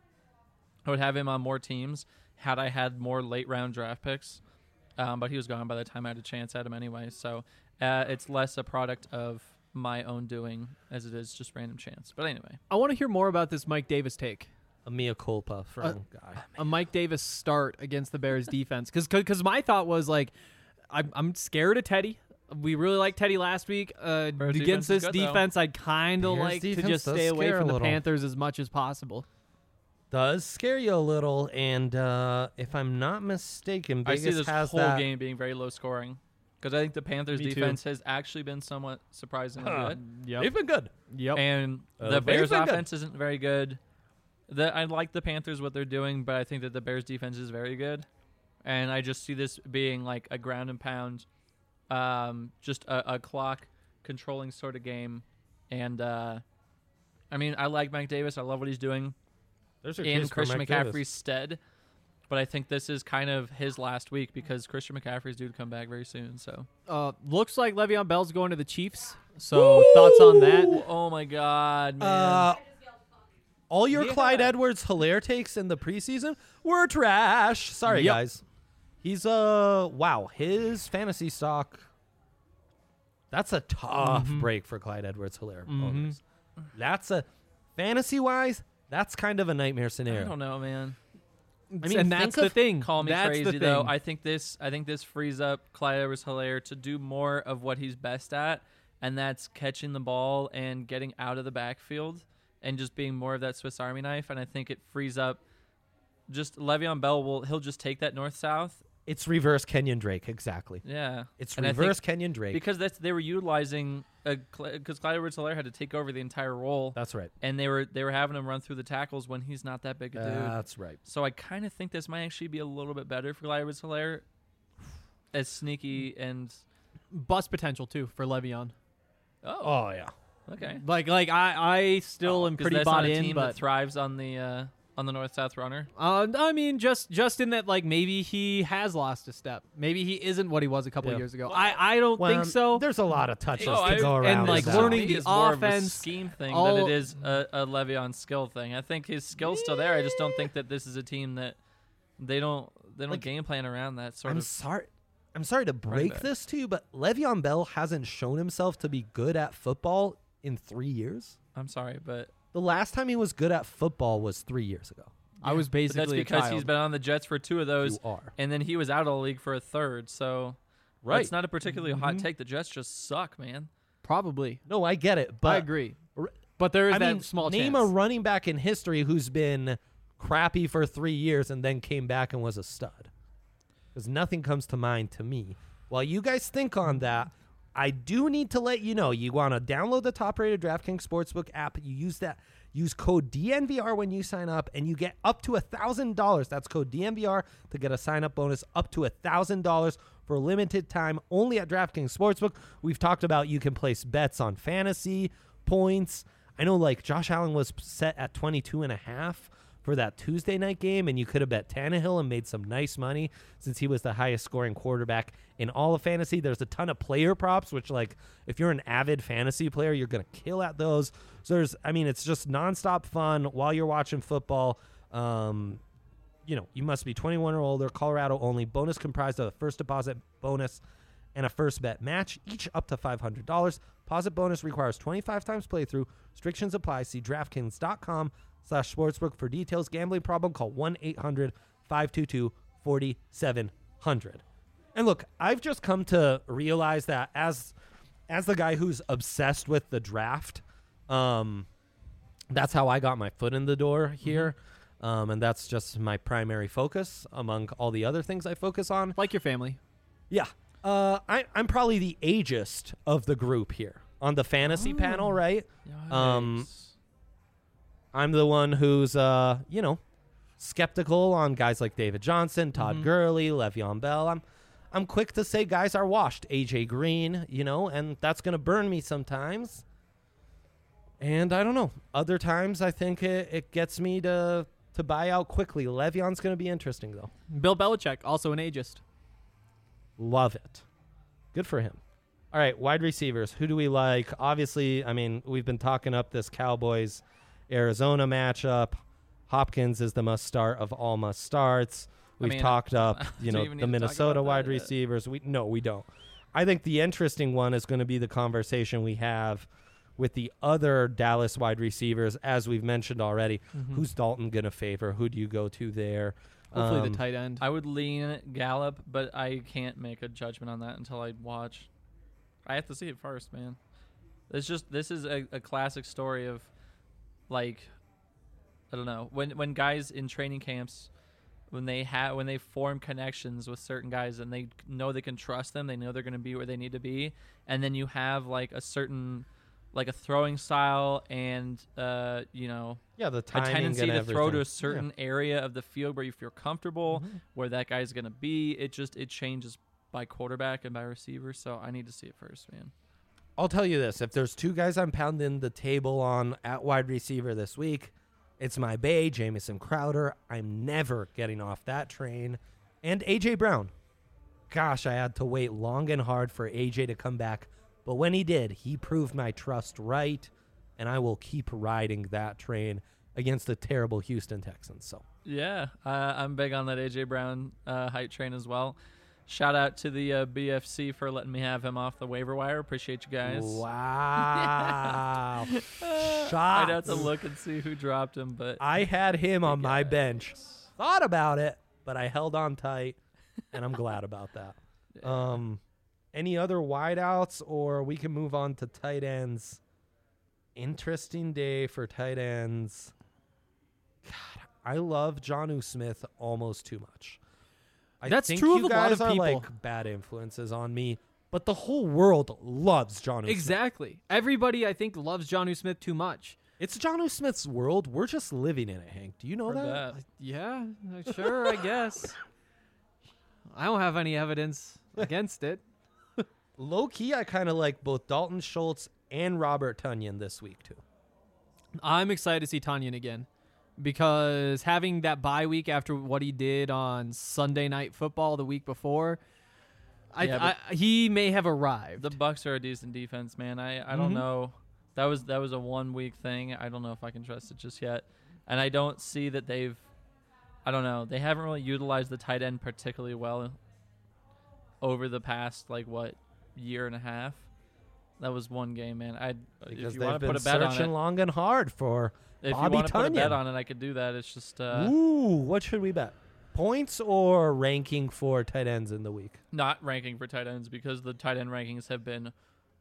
I would have him on more teams had I had more late round draft picks. Um, but he was gone by the time I had a chance at him anyway. So uh, it's less a product of my own doing as it is just random chance. But anyway. I want to hear more about this Mike Davis take. A mea culpa from Uh, Guy. A Mike Davis start against the Bears defense. Because because my thought was like, I'm, I'm scared of Teddy. we really liked Teddy last week. Uh, Bears defense against is this good, though. defense, I'd kind of Bears like to defense just does stay away scare from a the little. Panthers as much as possible. Does scare you a little, and uh, if I'm not mistaken, I Vegas see this has whole that. game being very low scoring because I think the Panthers Me too. defense has actually been somewhat surprisingly Huh. good, Yep. They've been good. Yep. and Uh, the they've Bears been good. offense isn't very good. The, I like the Panthers what they're doing, but I think that the Bears defense is very good, and I just see this being like a ground and pound, um, just a, a clock controlling sort of game, and uh, I mean I like Mike Davis. I love what he's doing There's your in case for Christian Mike McCaffrey's Davis. stead. But I think this is kind of his last week because Christian McCaffrey's due to come back very soon. So, Uh, looks like Le'Veon Bell's going to the Chiefs. So thoughts on that? Ooh, oh my God, man! Uh, all your Yeah. Clyde Edwards-Helaire takes in the preseason were trash. Sorry, Yep. guys. He's uh wow, his fantasy stock. That's a tough Mhm. break for Clyde Edwards-Helaire Mhm. owners. That's a fantasy-wise, that's kind of a nightmare I scenario. don't know, man. I mean, and that's think the of- thing. Call me that's crazy the thing. though. I think this. I think this frees up Clyde Edwards-Helaire to do more of what he's best at, and that's catching the ball and getting out of the backfield and just being more of that Swiss Army knife. And I think it frees up. Just Le'Veon Bell will. He'll just take that north south. It's reverse Kenyon Drake, exactly. Yeah, It's And I think- reverse Kenyon Drake. because that's they were utilizing because Clyde Edwards-Helaire had to take over the entire role, That's right. and they were they were having him run through the tackles when he's not that big a dude. That's right. So I kind of think this might actually be a little bit better for Clyde Edwards-Helaire, as sneaky and Bust potential too for Le'Veon. oh, Oh yeah. okay. Like, like I, I still am 'Cause pretty that's bought not a in, team but that thrives on the uh, on the north south runner. uh, I mean, just just in that, like maybe he has lost a step. Maybe he isn't what he was a couple Yeah. years ago. I, I don't Well, think so. There's a lot of touches Oh, to I- go and, around. like, with that. learning To the me is more of a offense, scheme thing all- than it is a, a Le'Veon skill thing. I think his skill's still there. I just don't think that this is a team that they don't they don't Like, game plan around that sort I'm of. sorry. I'm sorry to break back. this to you, but Le'Veon Bell hasn't shown himself to be good at football in three years. I'm sorry, but The last time he was good at football was three years ago. I was but basically that's a because child. he's been on the Jets for two of those, You are. and then he was out of the league for a third. So Right. it's not a particularly hot Mhm. take. The Jets just suck, man. probably. No, I get it, but I agree. r- But there is I that mean, small name chance. a running back in history who's been crappy for three years and then came back and was a stud. Because nothing comes to mind to me. While you guys think on that, I do need to let you know you want to download the top-rated DraftKings Sportsbook app. You use that. Use code D N V R when you sign up, and you get up to one thousand dollars. That's code D N V R to get a sign-up bonus up to one thousand dollars for a limited time only at DraftKings Sportsbook. We've talked about you can place bets on fantasy, points. I know, like, Josh Allen was set at twenty-two and a half for that Tuesday night game, and you could have bet Tannehill and made some nice money since he was the highest scoring quarterback in all of fantasy. There's a ton of player props, which, like, if you're an avid fantasy player, you're going to kill at those. So there's, I mean, it's just nonstop fun while you're watching football. Um, you know, you must be twenty-one or older, Colorado only. Bonus comprised of a first deposit bonus and a first bet match, each up to five hundred dollars. Deposit bonus requires twenty-five times playthrough. Restrictions apply. See DraftKings.com slash sportsbook for details. Gambling problem? Call one eight hundred five two two four seven zero zero. And look, I've just come to realize that as as the guy who's obsessed with the draft, um, that's how I got my foot in the door here. Um, and that's just my primary focus among all the other things I focus on. like your family. Yeah. Uh, I, I'm probably the ageist of the group here on the fantasy Oh. panel, right? Um, Yikes. I'm the one who's, uh, you know, skeptical on guys like David Johnson, Todd Mhm. Gurley, Le'Veon Bell. I'm, I'm quick to say guys are washed. A J Green, you know, and that's going to burn me sometimes. And I don't know. Other times, I think it, it gets me to to buy out quickly. Le'Veon's going to be interesting, though. Bill Belichick, also an ageist. Love it. Good for him. All right, wide receivers. Who do we like? Obviously, I mean, we've been talking up this Cowboys-Arizona matchup. Hopkins is the must start of all must starts. I We've mean, talked up, do you you know, even the need to talk Minnesota about wide that yet? receivers. We no, we don't. I think the interesting one is going to be the conversation we have with the other Dallas wide receivers, as we've mentioned already. Mhm. Who's Dalton going to favor? Who do you go to there? Hopefully Um, the tight end. I would lean Gallup, but I can't make a judgment on that until I watch. I have to see it first, man. It's just this is a, a classic story of, like, I don't know, when when guys in training camps, when they have when they form connections with certain guys and they know they can trust them, they know they're going to be where they need to be, and then you have like a certain, like a throwing style and uh you know Yeah, the a timing tendency and to throw to everything. a certain area of the field where you feel comfortable, Mhm. where that guy's going to be. It just it changes by quarterback and by receiver, so I need to see it first, man. I'll tell you this: if there's two guys I'm pounding the table on at wide receiver this week, it's my Bay, Jamison Crowder. I'm never getting off that train, and A J Brown. Gosh, I had to wait long and hard for A J to come back, but when he did, he proved my trust right, and I will keep riding that train against the terrible Houston Texans. So Yeah, uh, I'm big on that A J Brown uh, hype train as well. Shout out to the uh, B F C for letting me have him off the waiver wire. Appreciate you guys. wow, shots. I'd have to look and see who dropped him, but I had him on my guys. bench. Thought about it, but I held on tight, and I'm glad about that. Yeah. Um, any other wideouts, or we can move on to tight ends. Interesting day for tight ends. God, I love Jonnu Smith almost too much. I That's think true you of a lot guys of are people. like bad influences on me, but the whole world loves Jonnu Smith. Exactly. Everybody, I think, loves Jonnu Smith too much. It's Jonnu Smith's world. We're just living in it, Hank. Do you know Heard that? that. Yeah, uh, sure, I guess. I don't have any evidence against it. Low key, I kind of like both Dalton Schultz and Robert Tonyan this week too. I'm excited to see Tanyan again because having that bye week after what he did on Sunday Night Football the week before, I, Yeah, I he may have arrived. The Bucks are a decent defense, man. I, I don't Mhm. know. That was that was a one week thing. I don't know if I can trust it just yet. And I don't see that they've I don't know. They haven't really utilized the tight end particularly well over the past like what year and a half. That was one game, man. I Because if you they've want to been put a bet on searching it, long and hard for. if Bobby you want to put a bet Tonyan. on it, I could do that. It's just uh, Ooh, what should we bet? Points or ranking for tight ends in the week? not ranking for tight ends because the tight end rankings have been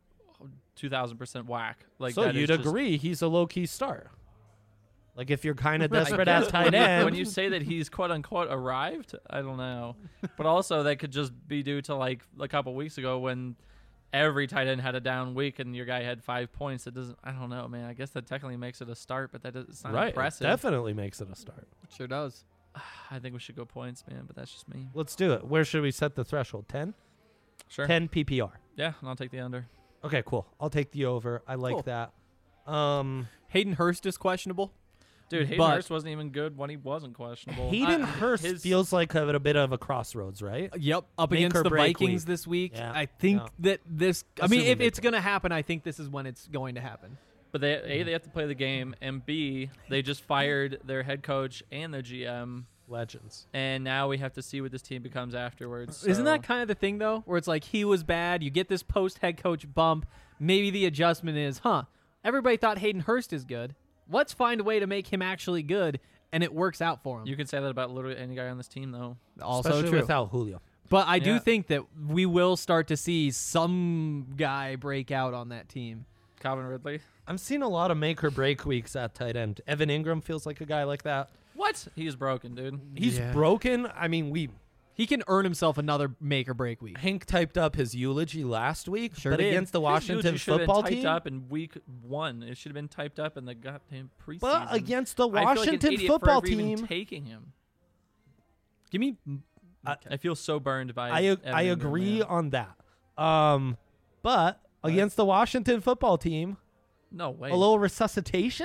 two thousand percent whack. Like so that is you'd just- agree he's a low key start. Like if you're kind of I desperate guess at tight when you- end. When you say that he's quote unquote arrived, I don't know. But also that could just be due to like a couple weeks ago when every tight end had a down week and your guy had five points. It doesn't. I don't know, man. I guess that technically makes it a start, but that does, it's not right, it impressive. definitely makes it a start. Sure does. I think we should go points, man. But that's just me. Let's do it. Where should we set the threshold? ten? Sure. ten P P R. Yeah, and I'll take the under. Okay, cool. I'll take the over. I like Cool. that. Um, Hayden Hurst is questionable. Dude, Hayden But- Hurst wasn't even good when he wasn't questionable. Hayden I- Hurst his- feels like a, a bit of a crossroads, right? Yep, up Make against or the break Vikings week. this week. Yeah, I think yeah. that this. I mean, Assuming if they it's play. going to happen, I think this is when it's going to happen. But they A, they have to play the game, and B, they just fired their head coach and their G M, Legends. and now we have to see what this team becomes afterwards. Isn't so- that kind of the thing though, where it's like he was bad, you get this post head coach bump. Maybe the adjustment is, huh? Everybody thought Hayden Hurst is good. Let's find a way to make him actually good, and it works out for him. You can say that about literally any guy on this team, though. also Especially true. without Julio. But I do Yeah. think that we will start to see some guy break out on that team. Calvin Ridley. I'm seeing a lot of make or break weeks at tight end. Evan Ingram feels like a guy like that. What? He's broken, dude. He's Yeah. broken. I mean, we He can earn himself another make or break week. Hank typed up his eulogy last week, Sure but did. against the Washington should have football been typed team. up in week one. It should have been typed up in the goddamn preseason. But against the I feel like an Washington idiot for football ever even team, taking him. Give me. I feel so burned by. I Evan I Ingram, agree man. on that. Um, but against the Washington football team, No way. a little resuscitation.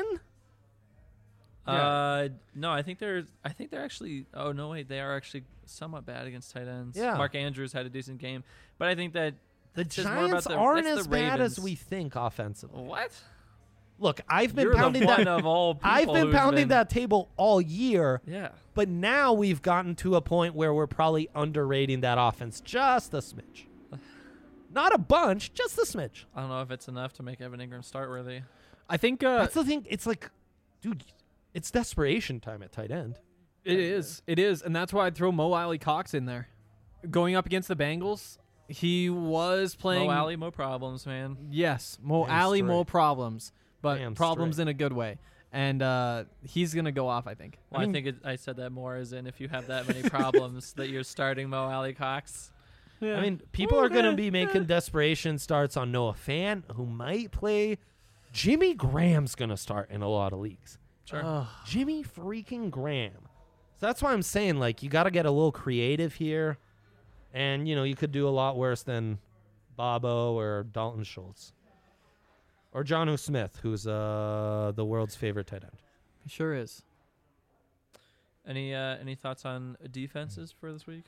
Uh, no, I think they're. I think they're actually. Oh no, wait, they are actually somewhat bad against tight ends. Yeah. Mark Andrews had a decent game, but I think that The it says more about Giants the- aren't that's as the bad as Ravens. we think offensively. What? Look, I've been You're pounding the one that. of all people I've been who's pounding been- that table all year, Yeah. but now we've gotten to a point where we're probably underrating that offense just a smidge. Not a bunch, just a smidge. I don't know if it's enough to make Evan Ingram start worthy. I think uh, That's the thing. It's like, dude, it's desperation time at tight end. it is. It is, and that's why I'd throw Mo Alley Cox in there. Going up against the Bengals, He was playing. Mo Alley, Mo problems, man. Yes, Mo Damn Alley, Mo straight. problems, but Damn problems straight. in a good way. And uh, he's gonna go off, I think. Well, I I, mean- think it, I said that more as in if you have that many problems that you're starting Mo Alley Cox. Yeah. I mean, people are going to be making desperation starts on Noah Fant, who might play. Jimmy Graham's going to start in a lot of leagues. Sure. Ugh. Jimmy freaking Graham. So that's why I'm saying, like, you got to get a little creative here. And, you know, you could do a lot worse than Bobo or Dalton Schultz. Or Jonnu Smith, who's uh, the world's favorite tight end. He sure is. Any uh, any thoughts on defenses for this week?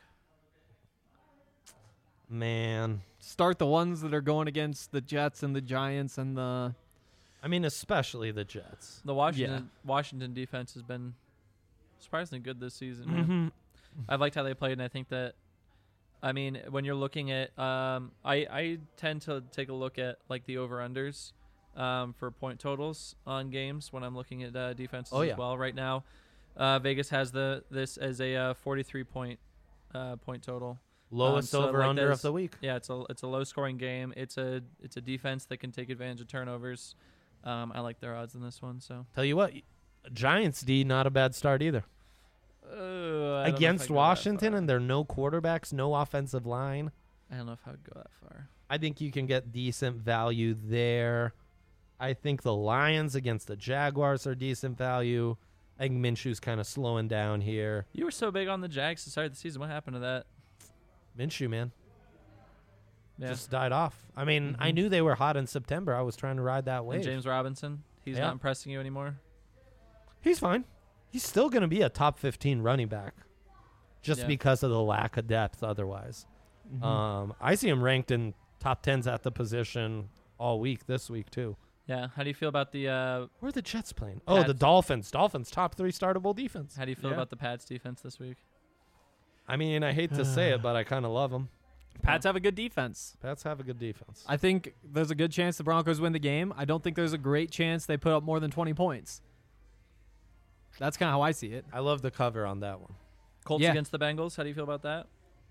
Man. Start the ones that are going against the Jets and the Giants and the. I mean, especially the Jets. The Washington Washington defense has been surprisingly good this season. man. Mm-hmm. I've liked how they played, and I think that, I mean, when you're looking at, um, I I tend to take a look at like the over unders, um, for point totals on games when I'm looking at uh, defenses Oh, yeah. as well. Right now, uh, Vegas has the this as a uh, forty-three point uh, point total. Lowest Um, so, over like, under there's- of the week. Yeah, it's a it's a low scoring game. It's a it's a defense that can take advantage of turnovers. Um, I like their odds in this one. So Tell you what, Giants D, not a bad start either. uh, I don't know if I'd Against go that Washington, far. and there are no quarterbacks, no offensive line. I don't know if I would go that far. I think you can get decent value there. I think the Lions against the Jaguars are decent value. I think Minshew's kind of slowing down here. You were so big on the Jags to start the season. What happened to that? Minshew, man, Yeah. just died off. I mean, I Mhm. knew they were hot in September. I was trying to ride that And wave. James Robinson, he's Yeah. not impressing you anymore. He's fine. He's still going to be a top fifteen running back, just Yeah. because of the lack of depth otherwise. Mhm. Um, I see him ranked in top tens at the position all week, this week, too. Yeah. How do you feel about the uh, Where are the Jets playing? Oh, the Pats. Dolphins. Dolphins, top three startable defense. How do you feel Yeah. about the Pats defense this week? I mean, I hate to say it, but I kind of love them. Pats have a good defense. Pats have a good defense. I think there's a good chance the Broncos win the game. I don't think there's a great chance they put up more than twenty points. That's kind of how I see it. I love the cover on that one. Colts Yeah. against the Bengals. How do you feel about that?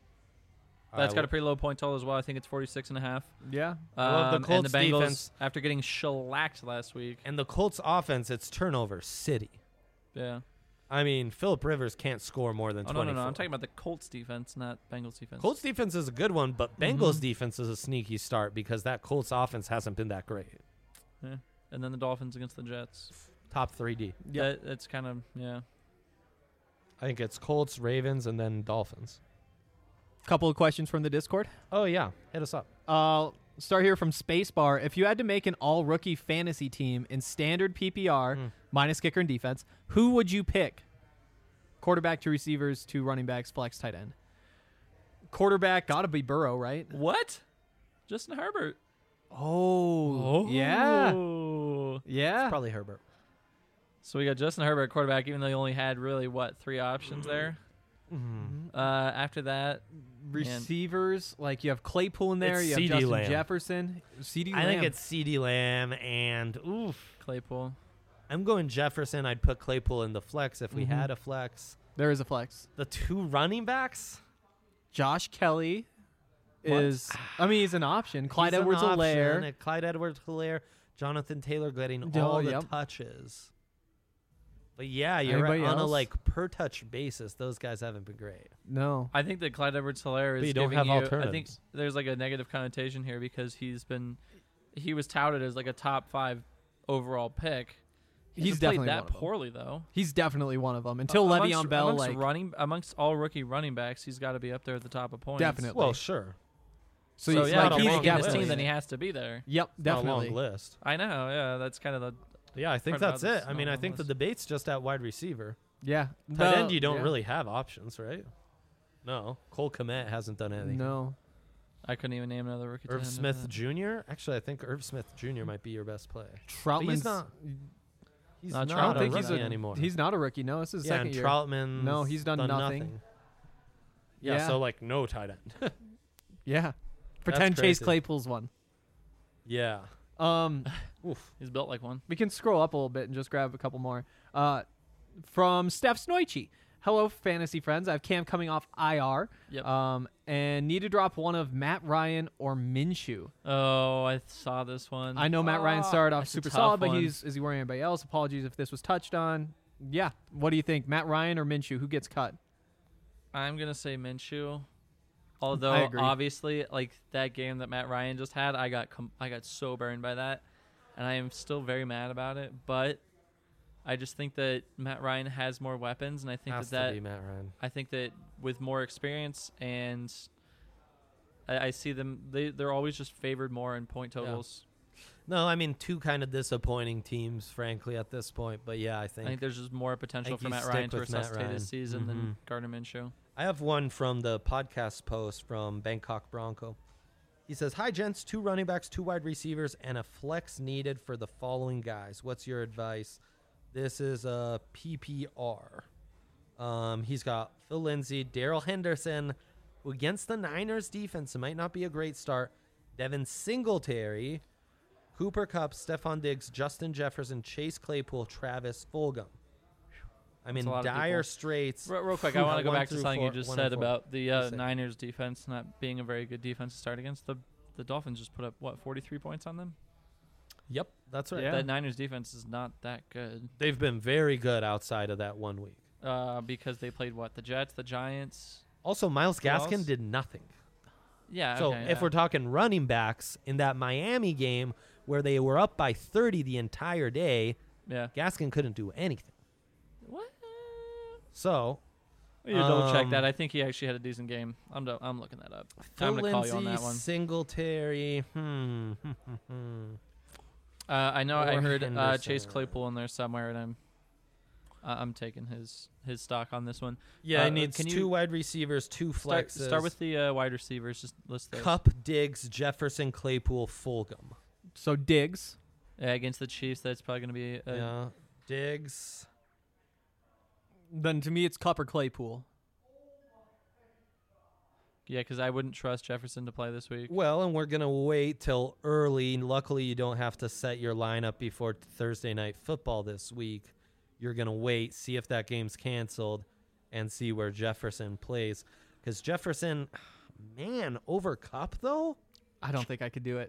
I That's got a lo- pretty low point total as well. I think it's forty-six and a half. Yeah. I love the Um, Colts and the Bengals, defense. after getting shellacked last week. And the Colts offense, it's turnover city. Yeah. I mean, Philip Rivers can't score more than Oh, no, twenty. no, no. I'm talking about the Colts defense, not Bengals defense. Colts defense is a good one, but Bengals Mhm. defense is a sneaky start because that Colts offense hasn't been that great. Yeah. And then the Dolphins against the Jets. Top three D. Yeah. That, it's kind of, yeah. I think it's Colts, Ravens, and then Dolphins. Couple of questions from the Discord. Oh, yeah. Hit us up. Uh, start here from Spacebar. If you had to make an all-rookie fantasy team in standard P P R, Mm. minus kicker and defense, who would you pick? Quarterback to receivers to running backs, flex, tight end. Quarterback, gotta be Burrow, right? What? Justin Herbert. Oh, yeah, Oh. yeah. Probably Herbert. So we got Justin Herbert at quarterback, even though he only had really, what, three options there? Mm-hmm. Uh, after that, Receivers, like you have Claypool in there, It's you have CeeDee Justin Lamb. Jefferson, CeeDee I Lamb. think it's CeeDee Lamb and oof. Claypool. I'm going Jefferson. I'd put Claypool in the flex if we Mhm. had a flex. There is a flex. The two running backs. Josh Kelly What? is, I mean, he's an option. Clyde He's an Edwards-Helaire. option. Clyde Edwards-Helaire. Jonathan Taylor getting Oh, all the yep. touches. But yeah, you're Anybody right. On a else? like per touch basis, those guys haven't been great. No. I think that Clyde Edwards-Helaire is But you don't giving have you. I think alternatives. there's like a negative connotation here because he's been, he was touted as like a top five overall pick. He He's hasn't played definitely that one of them. poorly though. He's definitely one of them. Until Uh, Le'Veon amongst- Bell, amongst like, running amongst all rookie running backs, he's got to be up there at the top of points. Definitely. Well, sure. so, So, he's yeah, not if a he's long making this list. team, then he has to be there. Yep, It's not definitely. a long list. I know. Yeah, that's kind of the. Yeah, I think Part that's about it. this I mean, I long think the list. debate's just at wide receiver. Yeah. Tight The- end, you don't yeah. really have options, right? No. Cole Kmet hasn't done anything. No. I couldn't even name another rookie. Irv tight end Smith after that. Junior Actually, I think Irv Smith Junior might be your best play. But Troutman's he's not. He's Not not, Trout- I a don't think rookie he's a- anymore. He's not a rookie. No, this is his yeah, second and year. Troutman. No, he's done nothing. Yeah, Yeah. so like no tight end. Yeah. Pretend Chase crazy. Claypool's one. yeah. Um, Oof. He's built like one. we can scroll up a little bit and just grab a couple more. Uh, from Steph Snoichi. hello, fantasy friends. I have Cam coming off I R. Yep. Um, and need to drop one of Matt Ryan or Minshew. Oh, I saw this one. I know Matt Ryan started off that's a super tough solid, but one. he's is he worrying anybody else? Apologies if this was touched on. Yeah. What do you think, Matt Ryan or Minshew? Who gets cut? I'm gonna say Minshew. I Although agree. obviously, like that game that Matt Ryan just had, I got com- I got so burned by that, and I am still very mad about it. But I just think that Matt Ryan has more weapons, and I think Has that, to that be Matt Ryan. I think that with more experience and I, I see them, they they're always just favored more in point Yeah. totals. No, I mean two kind of disappointing teams, frankly, at this point. But yeah, I I think think there's just more potential think for you Matt stick Ryan to with Matt resuscitate Ryan. his season Mhm. than Gardner Minshew. I have one from the podcast post from Bangkok Bronco. He says, "Hi gents, two running backs, two wide receivers, and a flex needed for the following guys. What's your advice?" This is a P P R. Um, he's got Phil Lindsay, Daryl Henderson, who against the Niners defense, it might not be a great start. Devin Singletary, Cooper Kupp, Stephon Diggs, Justin Jefferson, Chase Claypool, Travis Fulgham. I'm That's in a lot of dire people. straits. Real, real quick, I want to go One back to through something four- you just one and said four. about the uh, Just say. Niners defense not being a very good defense to start against. The the Dolphins just put up what forty-three points on them. Yep, that's right. Yeah. That Niners defense is not that good They've been very good outside of that one week. uh, because they played what the Jets, the Giants. Also, Miles Who else? Gaskin did nothing. Yeah. So okay, if yeah. we're talking running backs in that Miami game where they were up by thirty the entire day, yeah. Gaskin couldn't do anything. What? So You double check Um, that. I think he actually had a decent game. I'm do- I'm looking that up. Phil I'm gonna call you Lindsay, on that one. Singletary, hmm, hmm, hmm, hmm. Uh, I know I Or heard uh, Chase Henderson. Claypool in there somewhere, and I'm uh, I'm taking his his stock on this one. Yeah, Uh, he needs can two you wide receivers, two Start, flexes. start with the uh, wide receivers. Just list those. Cup, Diggs, Jefferson, Claypool, Fulgham. So Diggs. Yeah, against the Chiefs, that's probably going to be. Uh, yeah, Diggs. Then to me, it's Cup or Claypool. Yeah, because I wouldn't trust Jefferson to play this week. Well, and we're gonna wait till early. Luckily, you don't have to set your lineup before Thursday night football this week. You're gonna wait, see if that game's canceled, and see where Jefferson plays. Because Jefferson, man, over Cup though. I don't think I could do it.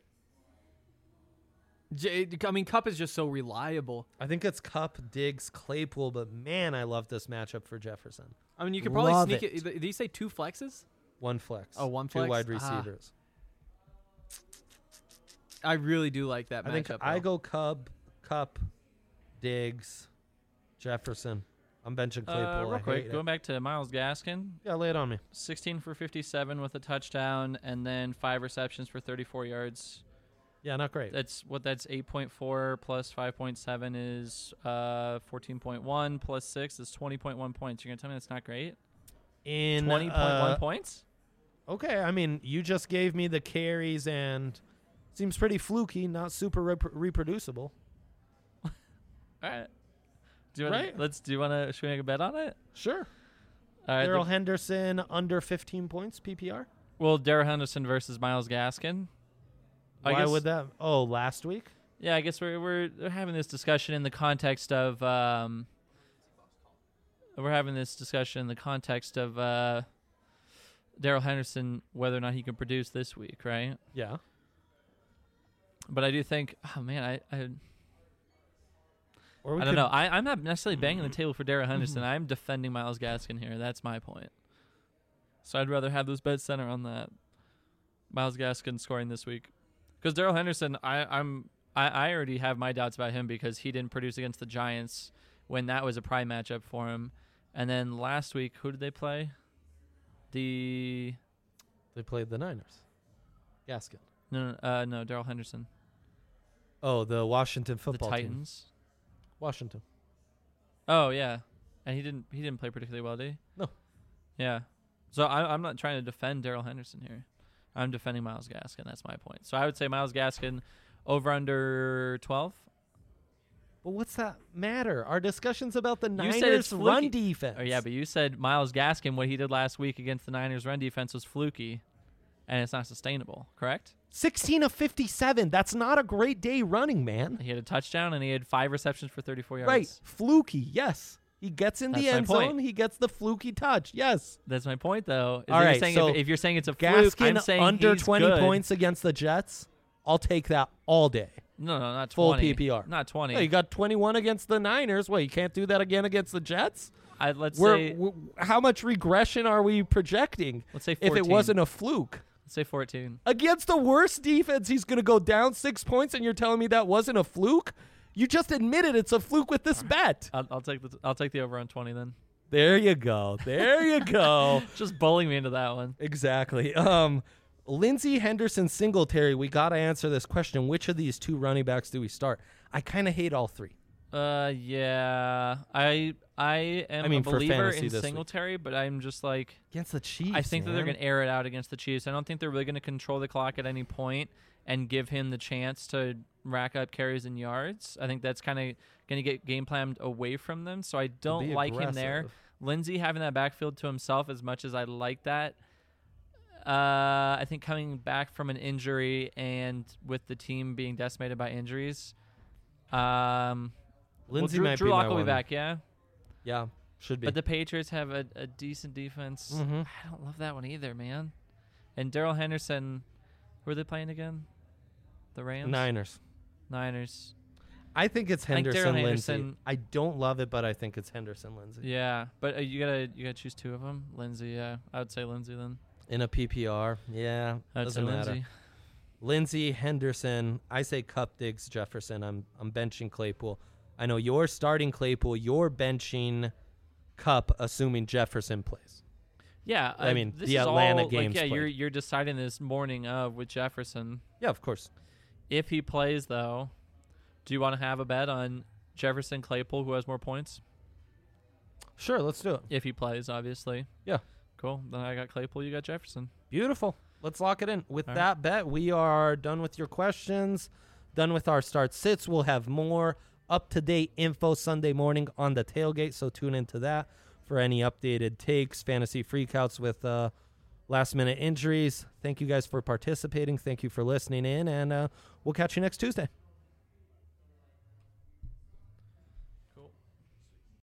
J- I mean, Cup is just so reliable. I think it's Cup, Diggs, Claypool, but man, I love this matchup for Jefferson. I mean, you could probably Love sneak it. it. Did you say two flexes? One flex. Oh, one two flex? wide Ah. receivers. I really do like that I think matchup. I though. go Cup, Cup, Diggs, Jefferson. I'm benching Claypool. Uh, real I quick, hate going it. back to Miles Gaskin, Yeah, lay it on me. sixteen for fifty-seven with a touchdown, and then five receptions for thirty-four yards. Yeah, not great. That's what that's eight point four plus five point seven is uh, fourteen point one plus six is twenty point one points. You're going to tell me that's not great? In twenty point one uh, points? Okay, I mean, you just gave me the carries and seems pretty fluky, not super rep- reproducible. All right. Do you wanna, Right. Let's. Do you want to? Should we make a bet on it? Sure. All right. Daryl the- Henderson under fifteen points P P R. well, Darrell Henderson versus Miles Gaskin. I Why guess- would that? Oh, last week. Yeah, I guess we're we're we're having this discussion in the context of um. We're having this discussion in the context of uh. Darrell Henderson, whether or not he can produce this week, right? Yeah. But I do think, oh man, I I, Or we I don't could- know. I, I'm not necessarily banging the table for Darrell Henderson. I'm defending Miles Gaskin here. That's my point. So I'd rather have those bets center on that. Miles Gaskin scoring this week, because Darrell Henderson, I, I'm I, I already have my doubts about him because he didn't produce against the Giants when that was a prime matchup for him. And then last week, who did they play? The They played the Niners. Gaskin. no no uh, no Darrell Henderson, Oh, the Washington football the team. Titans. Washington. Oh yeah, and he didn't he didn't play particularly well, did he? No. Yeah. So I, I'm not trying to defend Darrell Henderson here. I'm defending Miles Gaskin. That's my point. So I would say Miles Gaskin over under twelve. But what's that matter? Our discussion's about the You said it's Niners run fluky. defense. Oh yeah, but you said Miles Gaskin, what he did last week against the Niners run defense was fluky, and it's not sustainable. Correct? sixteen of fifty-seven. That's not a great day running, man. He had a touchdown and he had five receptions for thirty-four yards. Right. Fluky, yes. He gets in the That's my end point. zone. He gets the fluky touch. Yes. That's my point, though. Is All that you're right, saying so if, if you're saying it's a fluke, I'm Gaskin saying under he's twenty good. points against the Jets. I'll take that all day. No, no, not Full twenty. P P R. Not twenty. Hey, you got twenty-one against the Niners. Well, you can't do that again against the Jets? I, let's We're, say w how much regression are we projecting let's say if fourteen. it wasn't a fluke? Let's say fourteen. Against the worst defense, he's going to go down six points, and you're telling me that wasn't a fluke? You just admitted it's a fluke with this bet. I'll, I'll take the I'll take the over on twenty then. There you go. There you go. Just bullying me into that one. Exactly. Um, Lindsey Henderson Singletary, we got to answer this question. Which of these two running backs do we start? I kind of hate all three. Uh, yeah. I I am I mean, a for believer fantasy in this week. Singletary, but I'm just like Against the Chiefs, I think that they're man. going to air it out against the Chiefs. I don't think they're really going to control the clock at any point and give him the chance to rack up carries and yards. I think that's kind of going to get game planned away from them. So I don't be like him there. aggressive. Lindsey having that backfield to himself, as much as I like that, uh, I think coming back from an injury and with the team being decimated by injuries, um, Lindsey well, Drew, might Drew be Lock my will be one. back, yeah. Yeah, should be. But the Patriots have a, a decent defense. Mhm. I don't love that one either, man. And Darrell Henderson, who are they playing again? The Rams? Niners. Niners. I think it's I think Henderson Darrell Lindsey. Henderson- I don't love it, but I think it's Henderson Lindsey. Yeah, but uh, you gotta you gotta choose two of them. Lindsey, yeah, I would say Lindsey then. In a P P R, yeah, I would say doesn't matter. Lindsey. Lindsey, Henderson. I say Cup, Diggs, Jefferson. I'm I'm benching Claypool. I know you're starting Claypool. You're benching Cup, assuming Jefferson plays. Yeah, I uh, mean, this the is Atlanta all, games Like, yeah, played. you're you're deciding this morning of with Jefferson. Yeah, of course. If he plays, though, do you want to have a bet on Jefferson Claypool, who has more points? Sure, let's do it. If he plays, obviously. Yeah. Cool. Then I got Claypool. You got Jefferson. Beautiful. Let's lock it in. With All that bet, we are done with your questions, done with our start sits. We'll have more up-to-date info Sunday morning on the tailgate, so tune into that for any updated takes, fantasy freakouts with uh, last-minute injuries. Thank you guys for participating. Thank you for listening in, and uh, we'll catch you next Tuesday.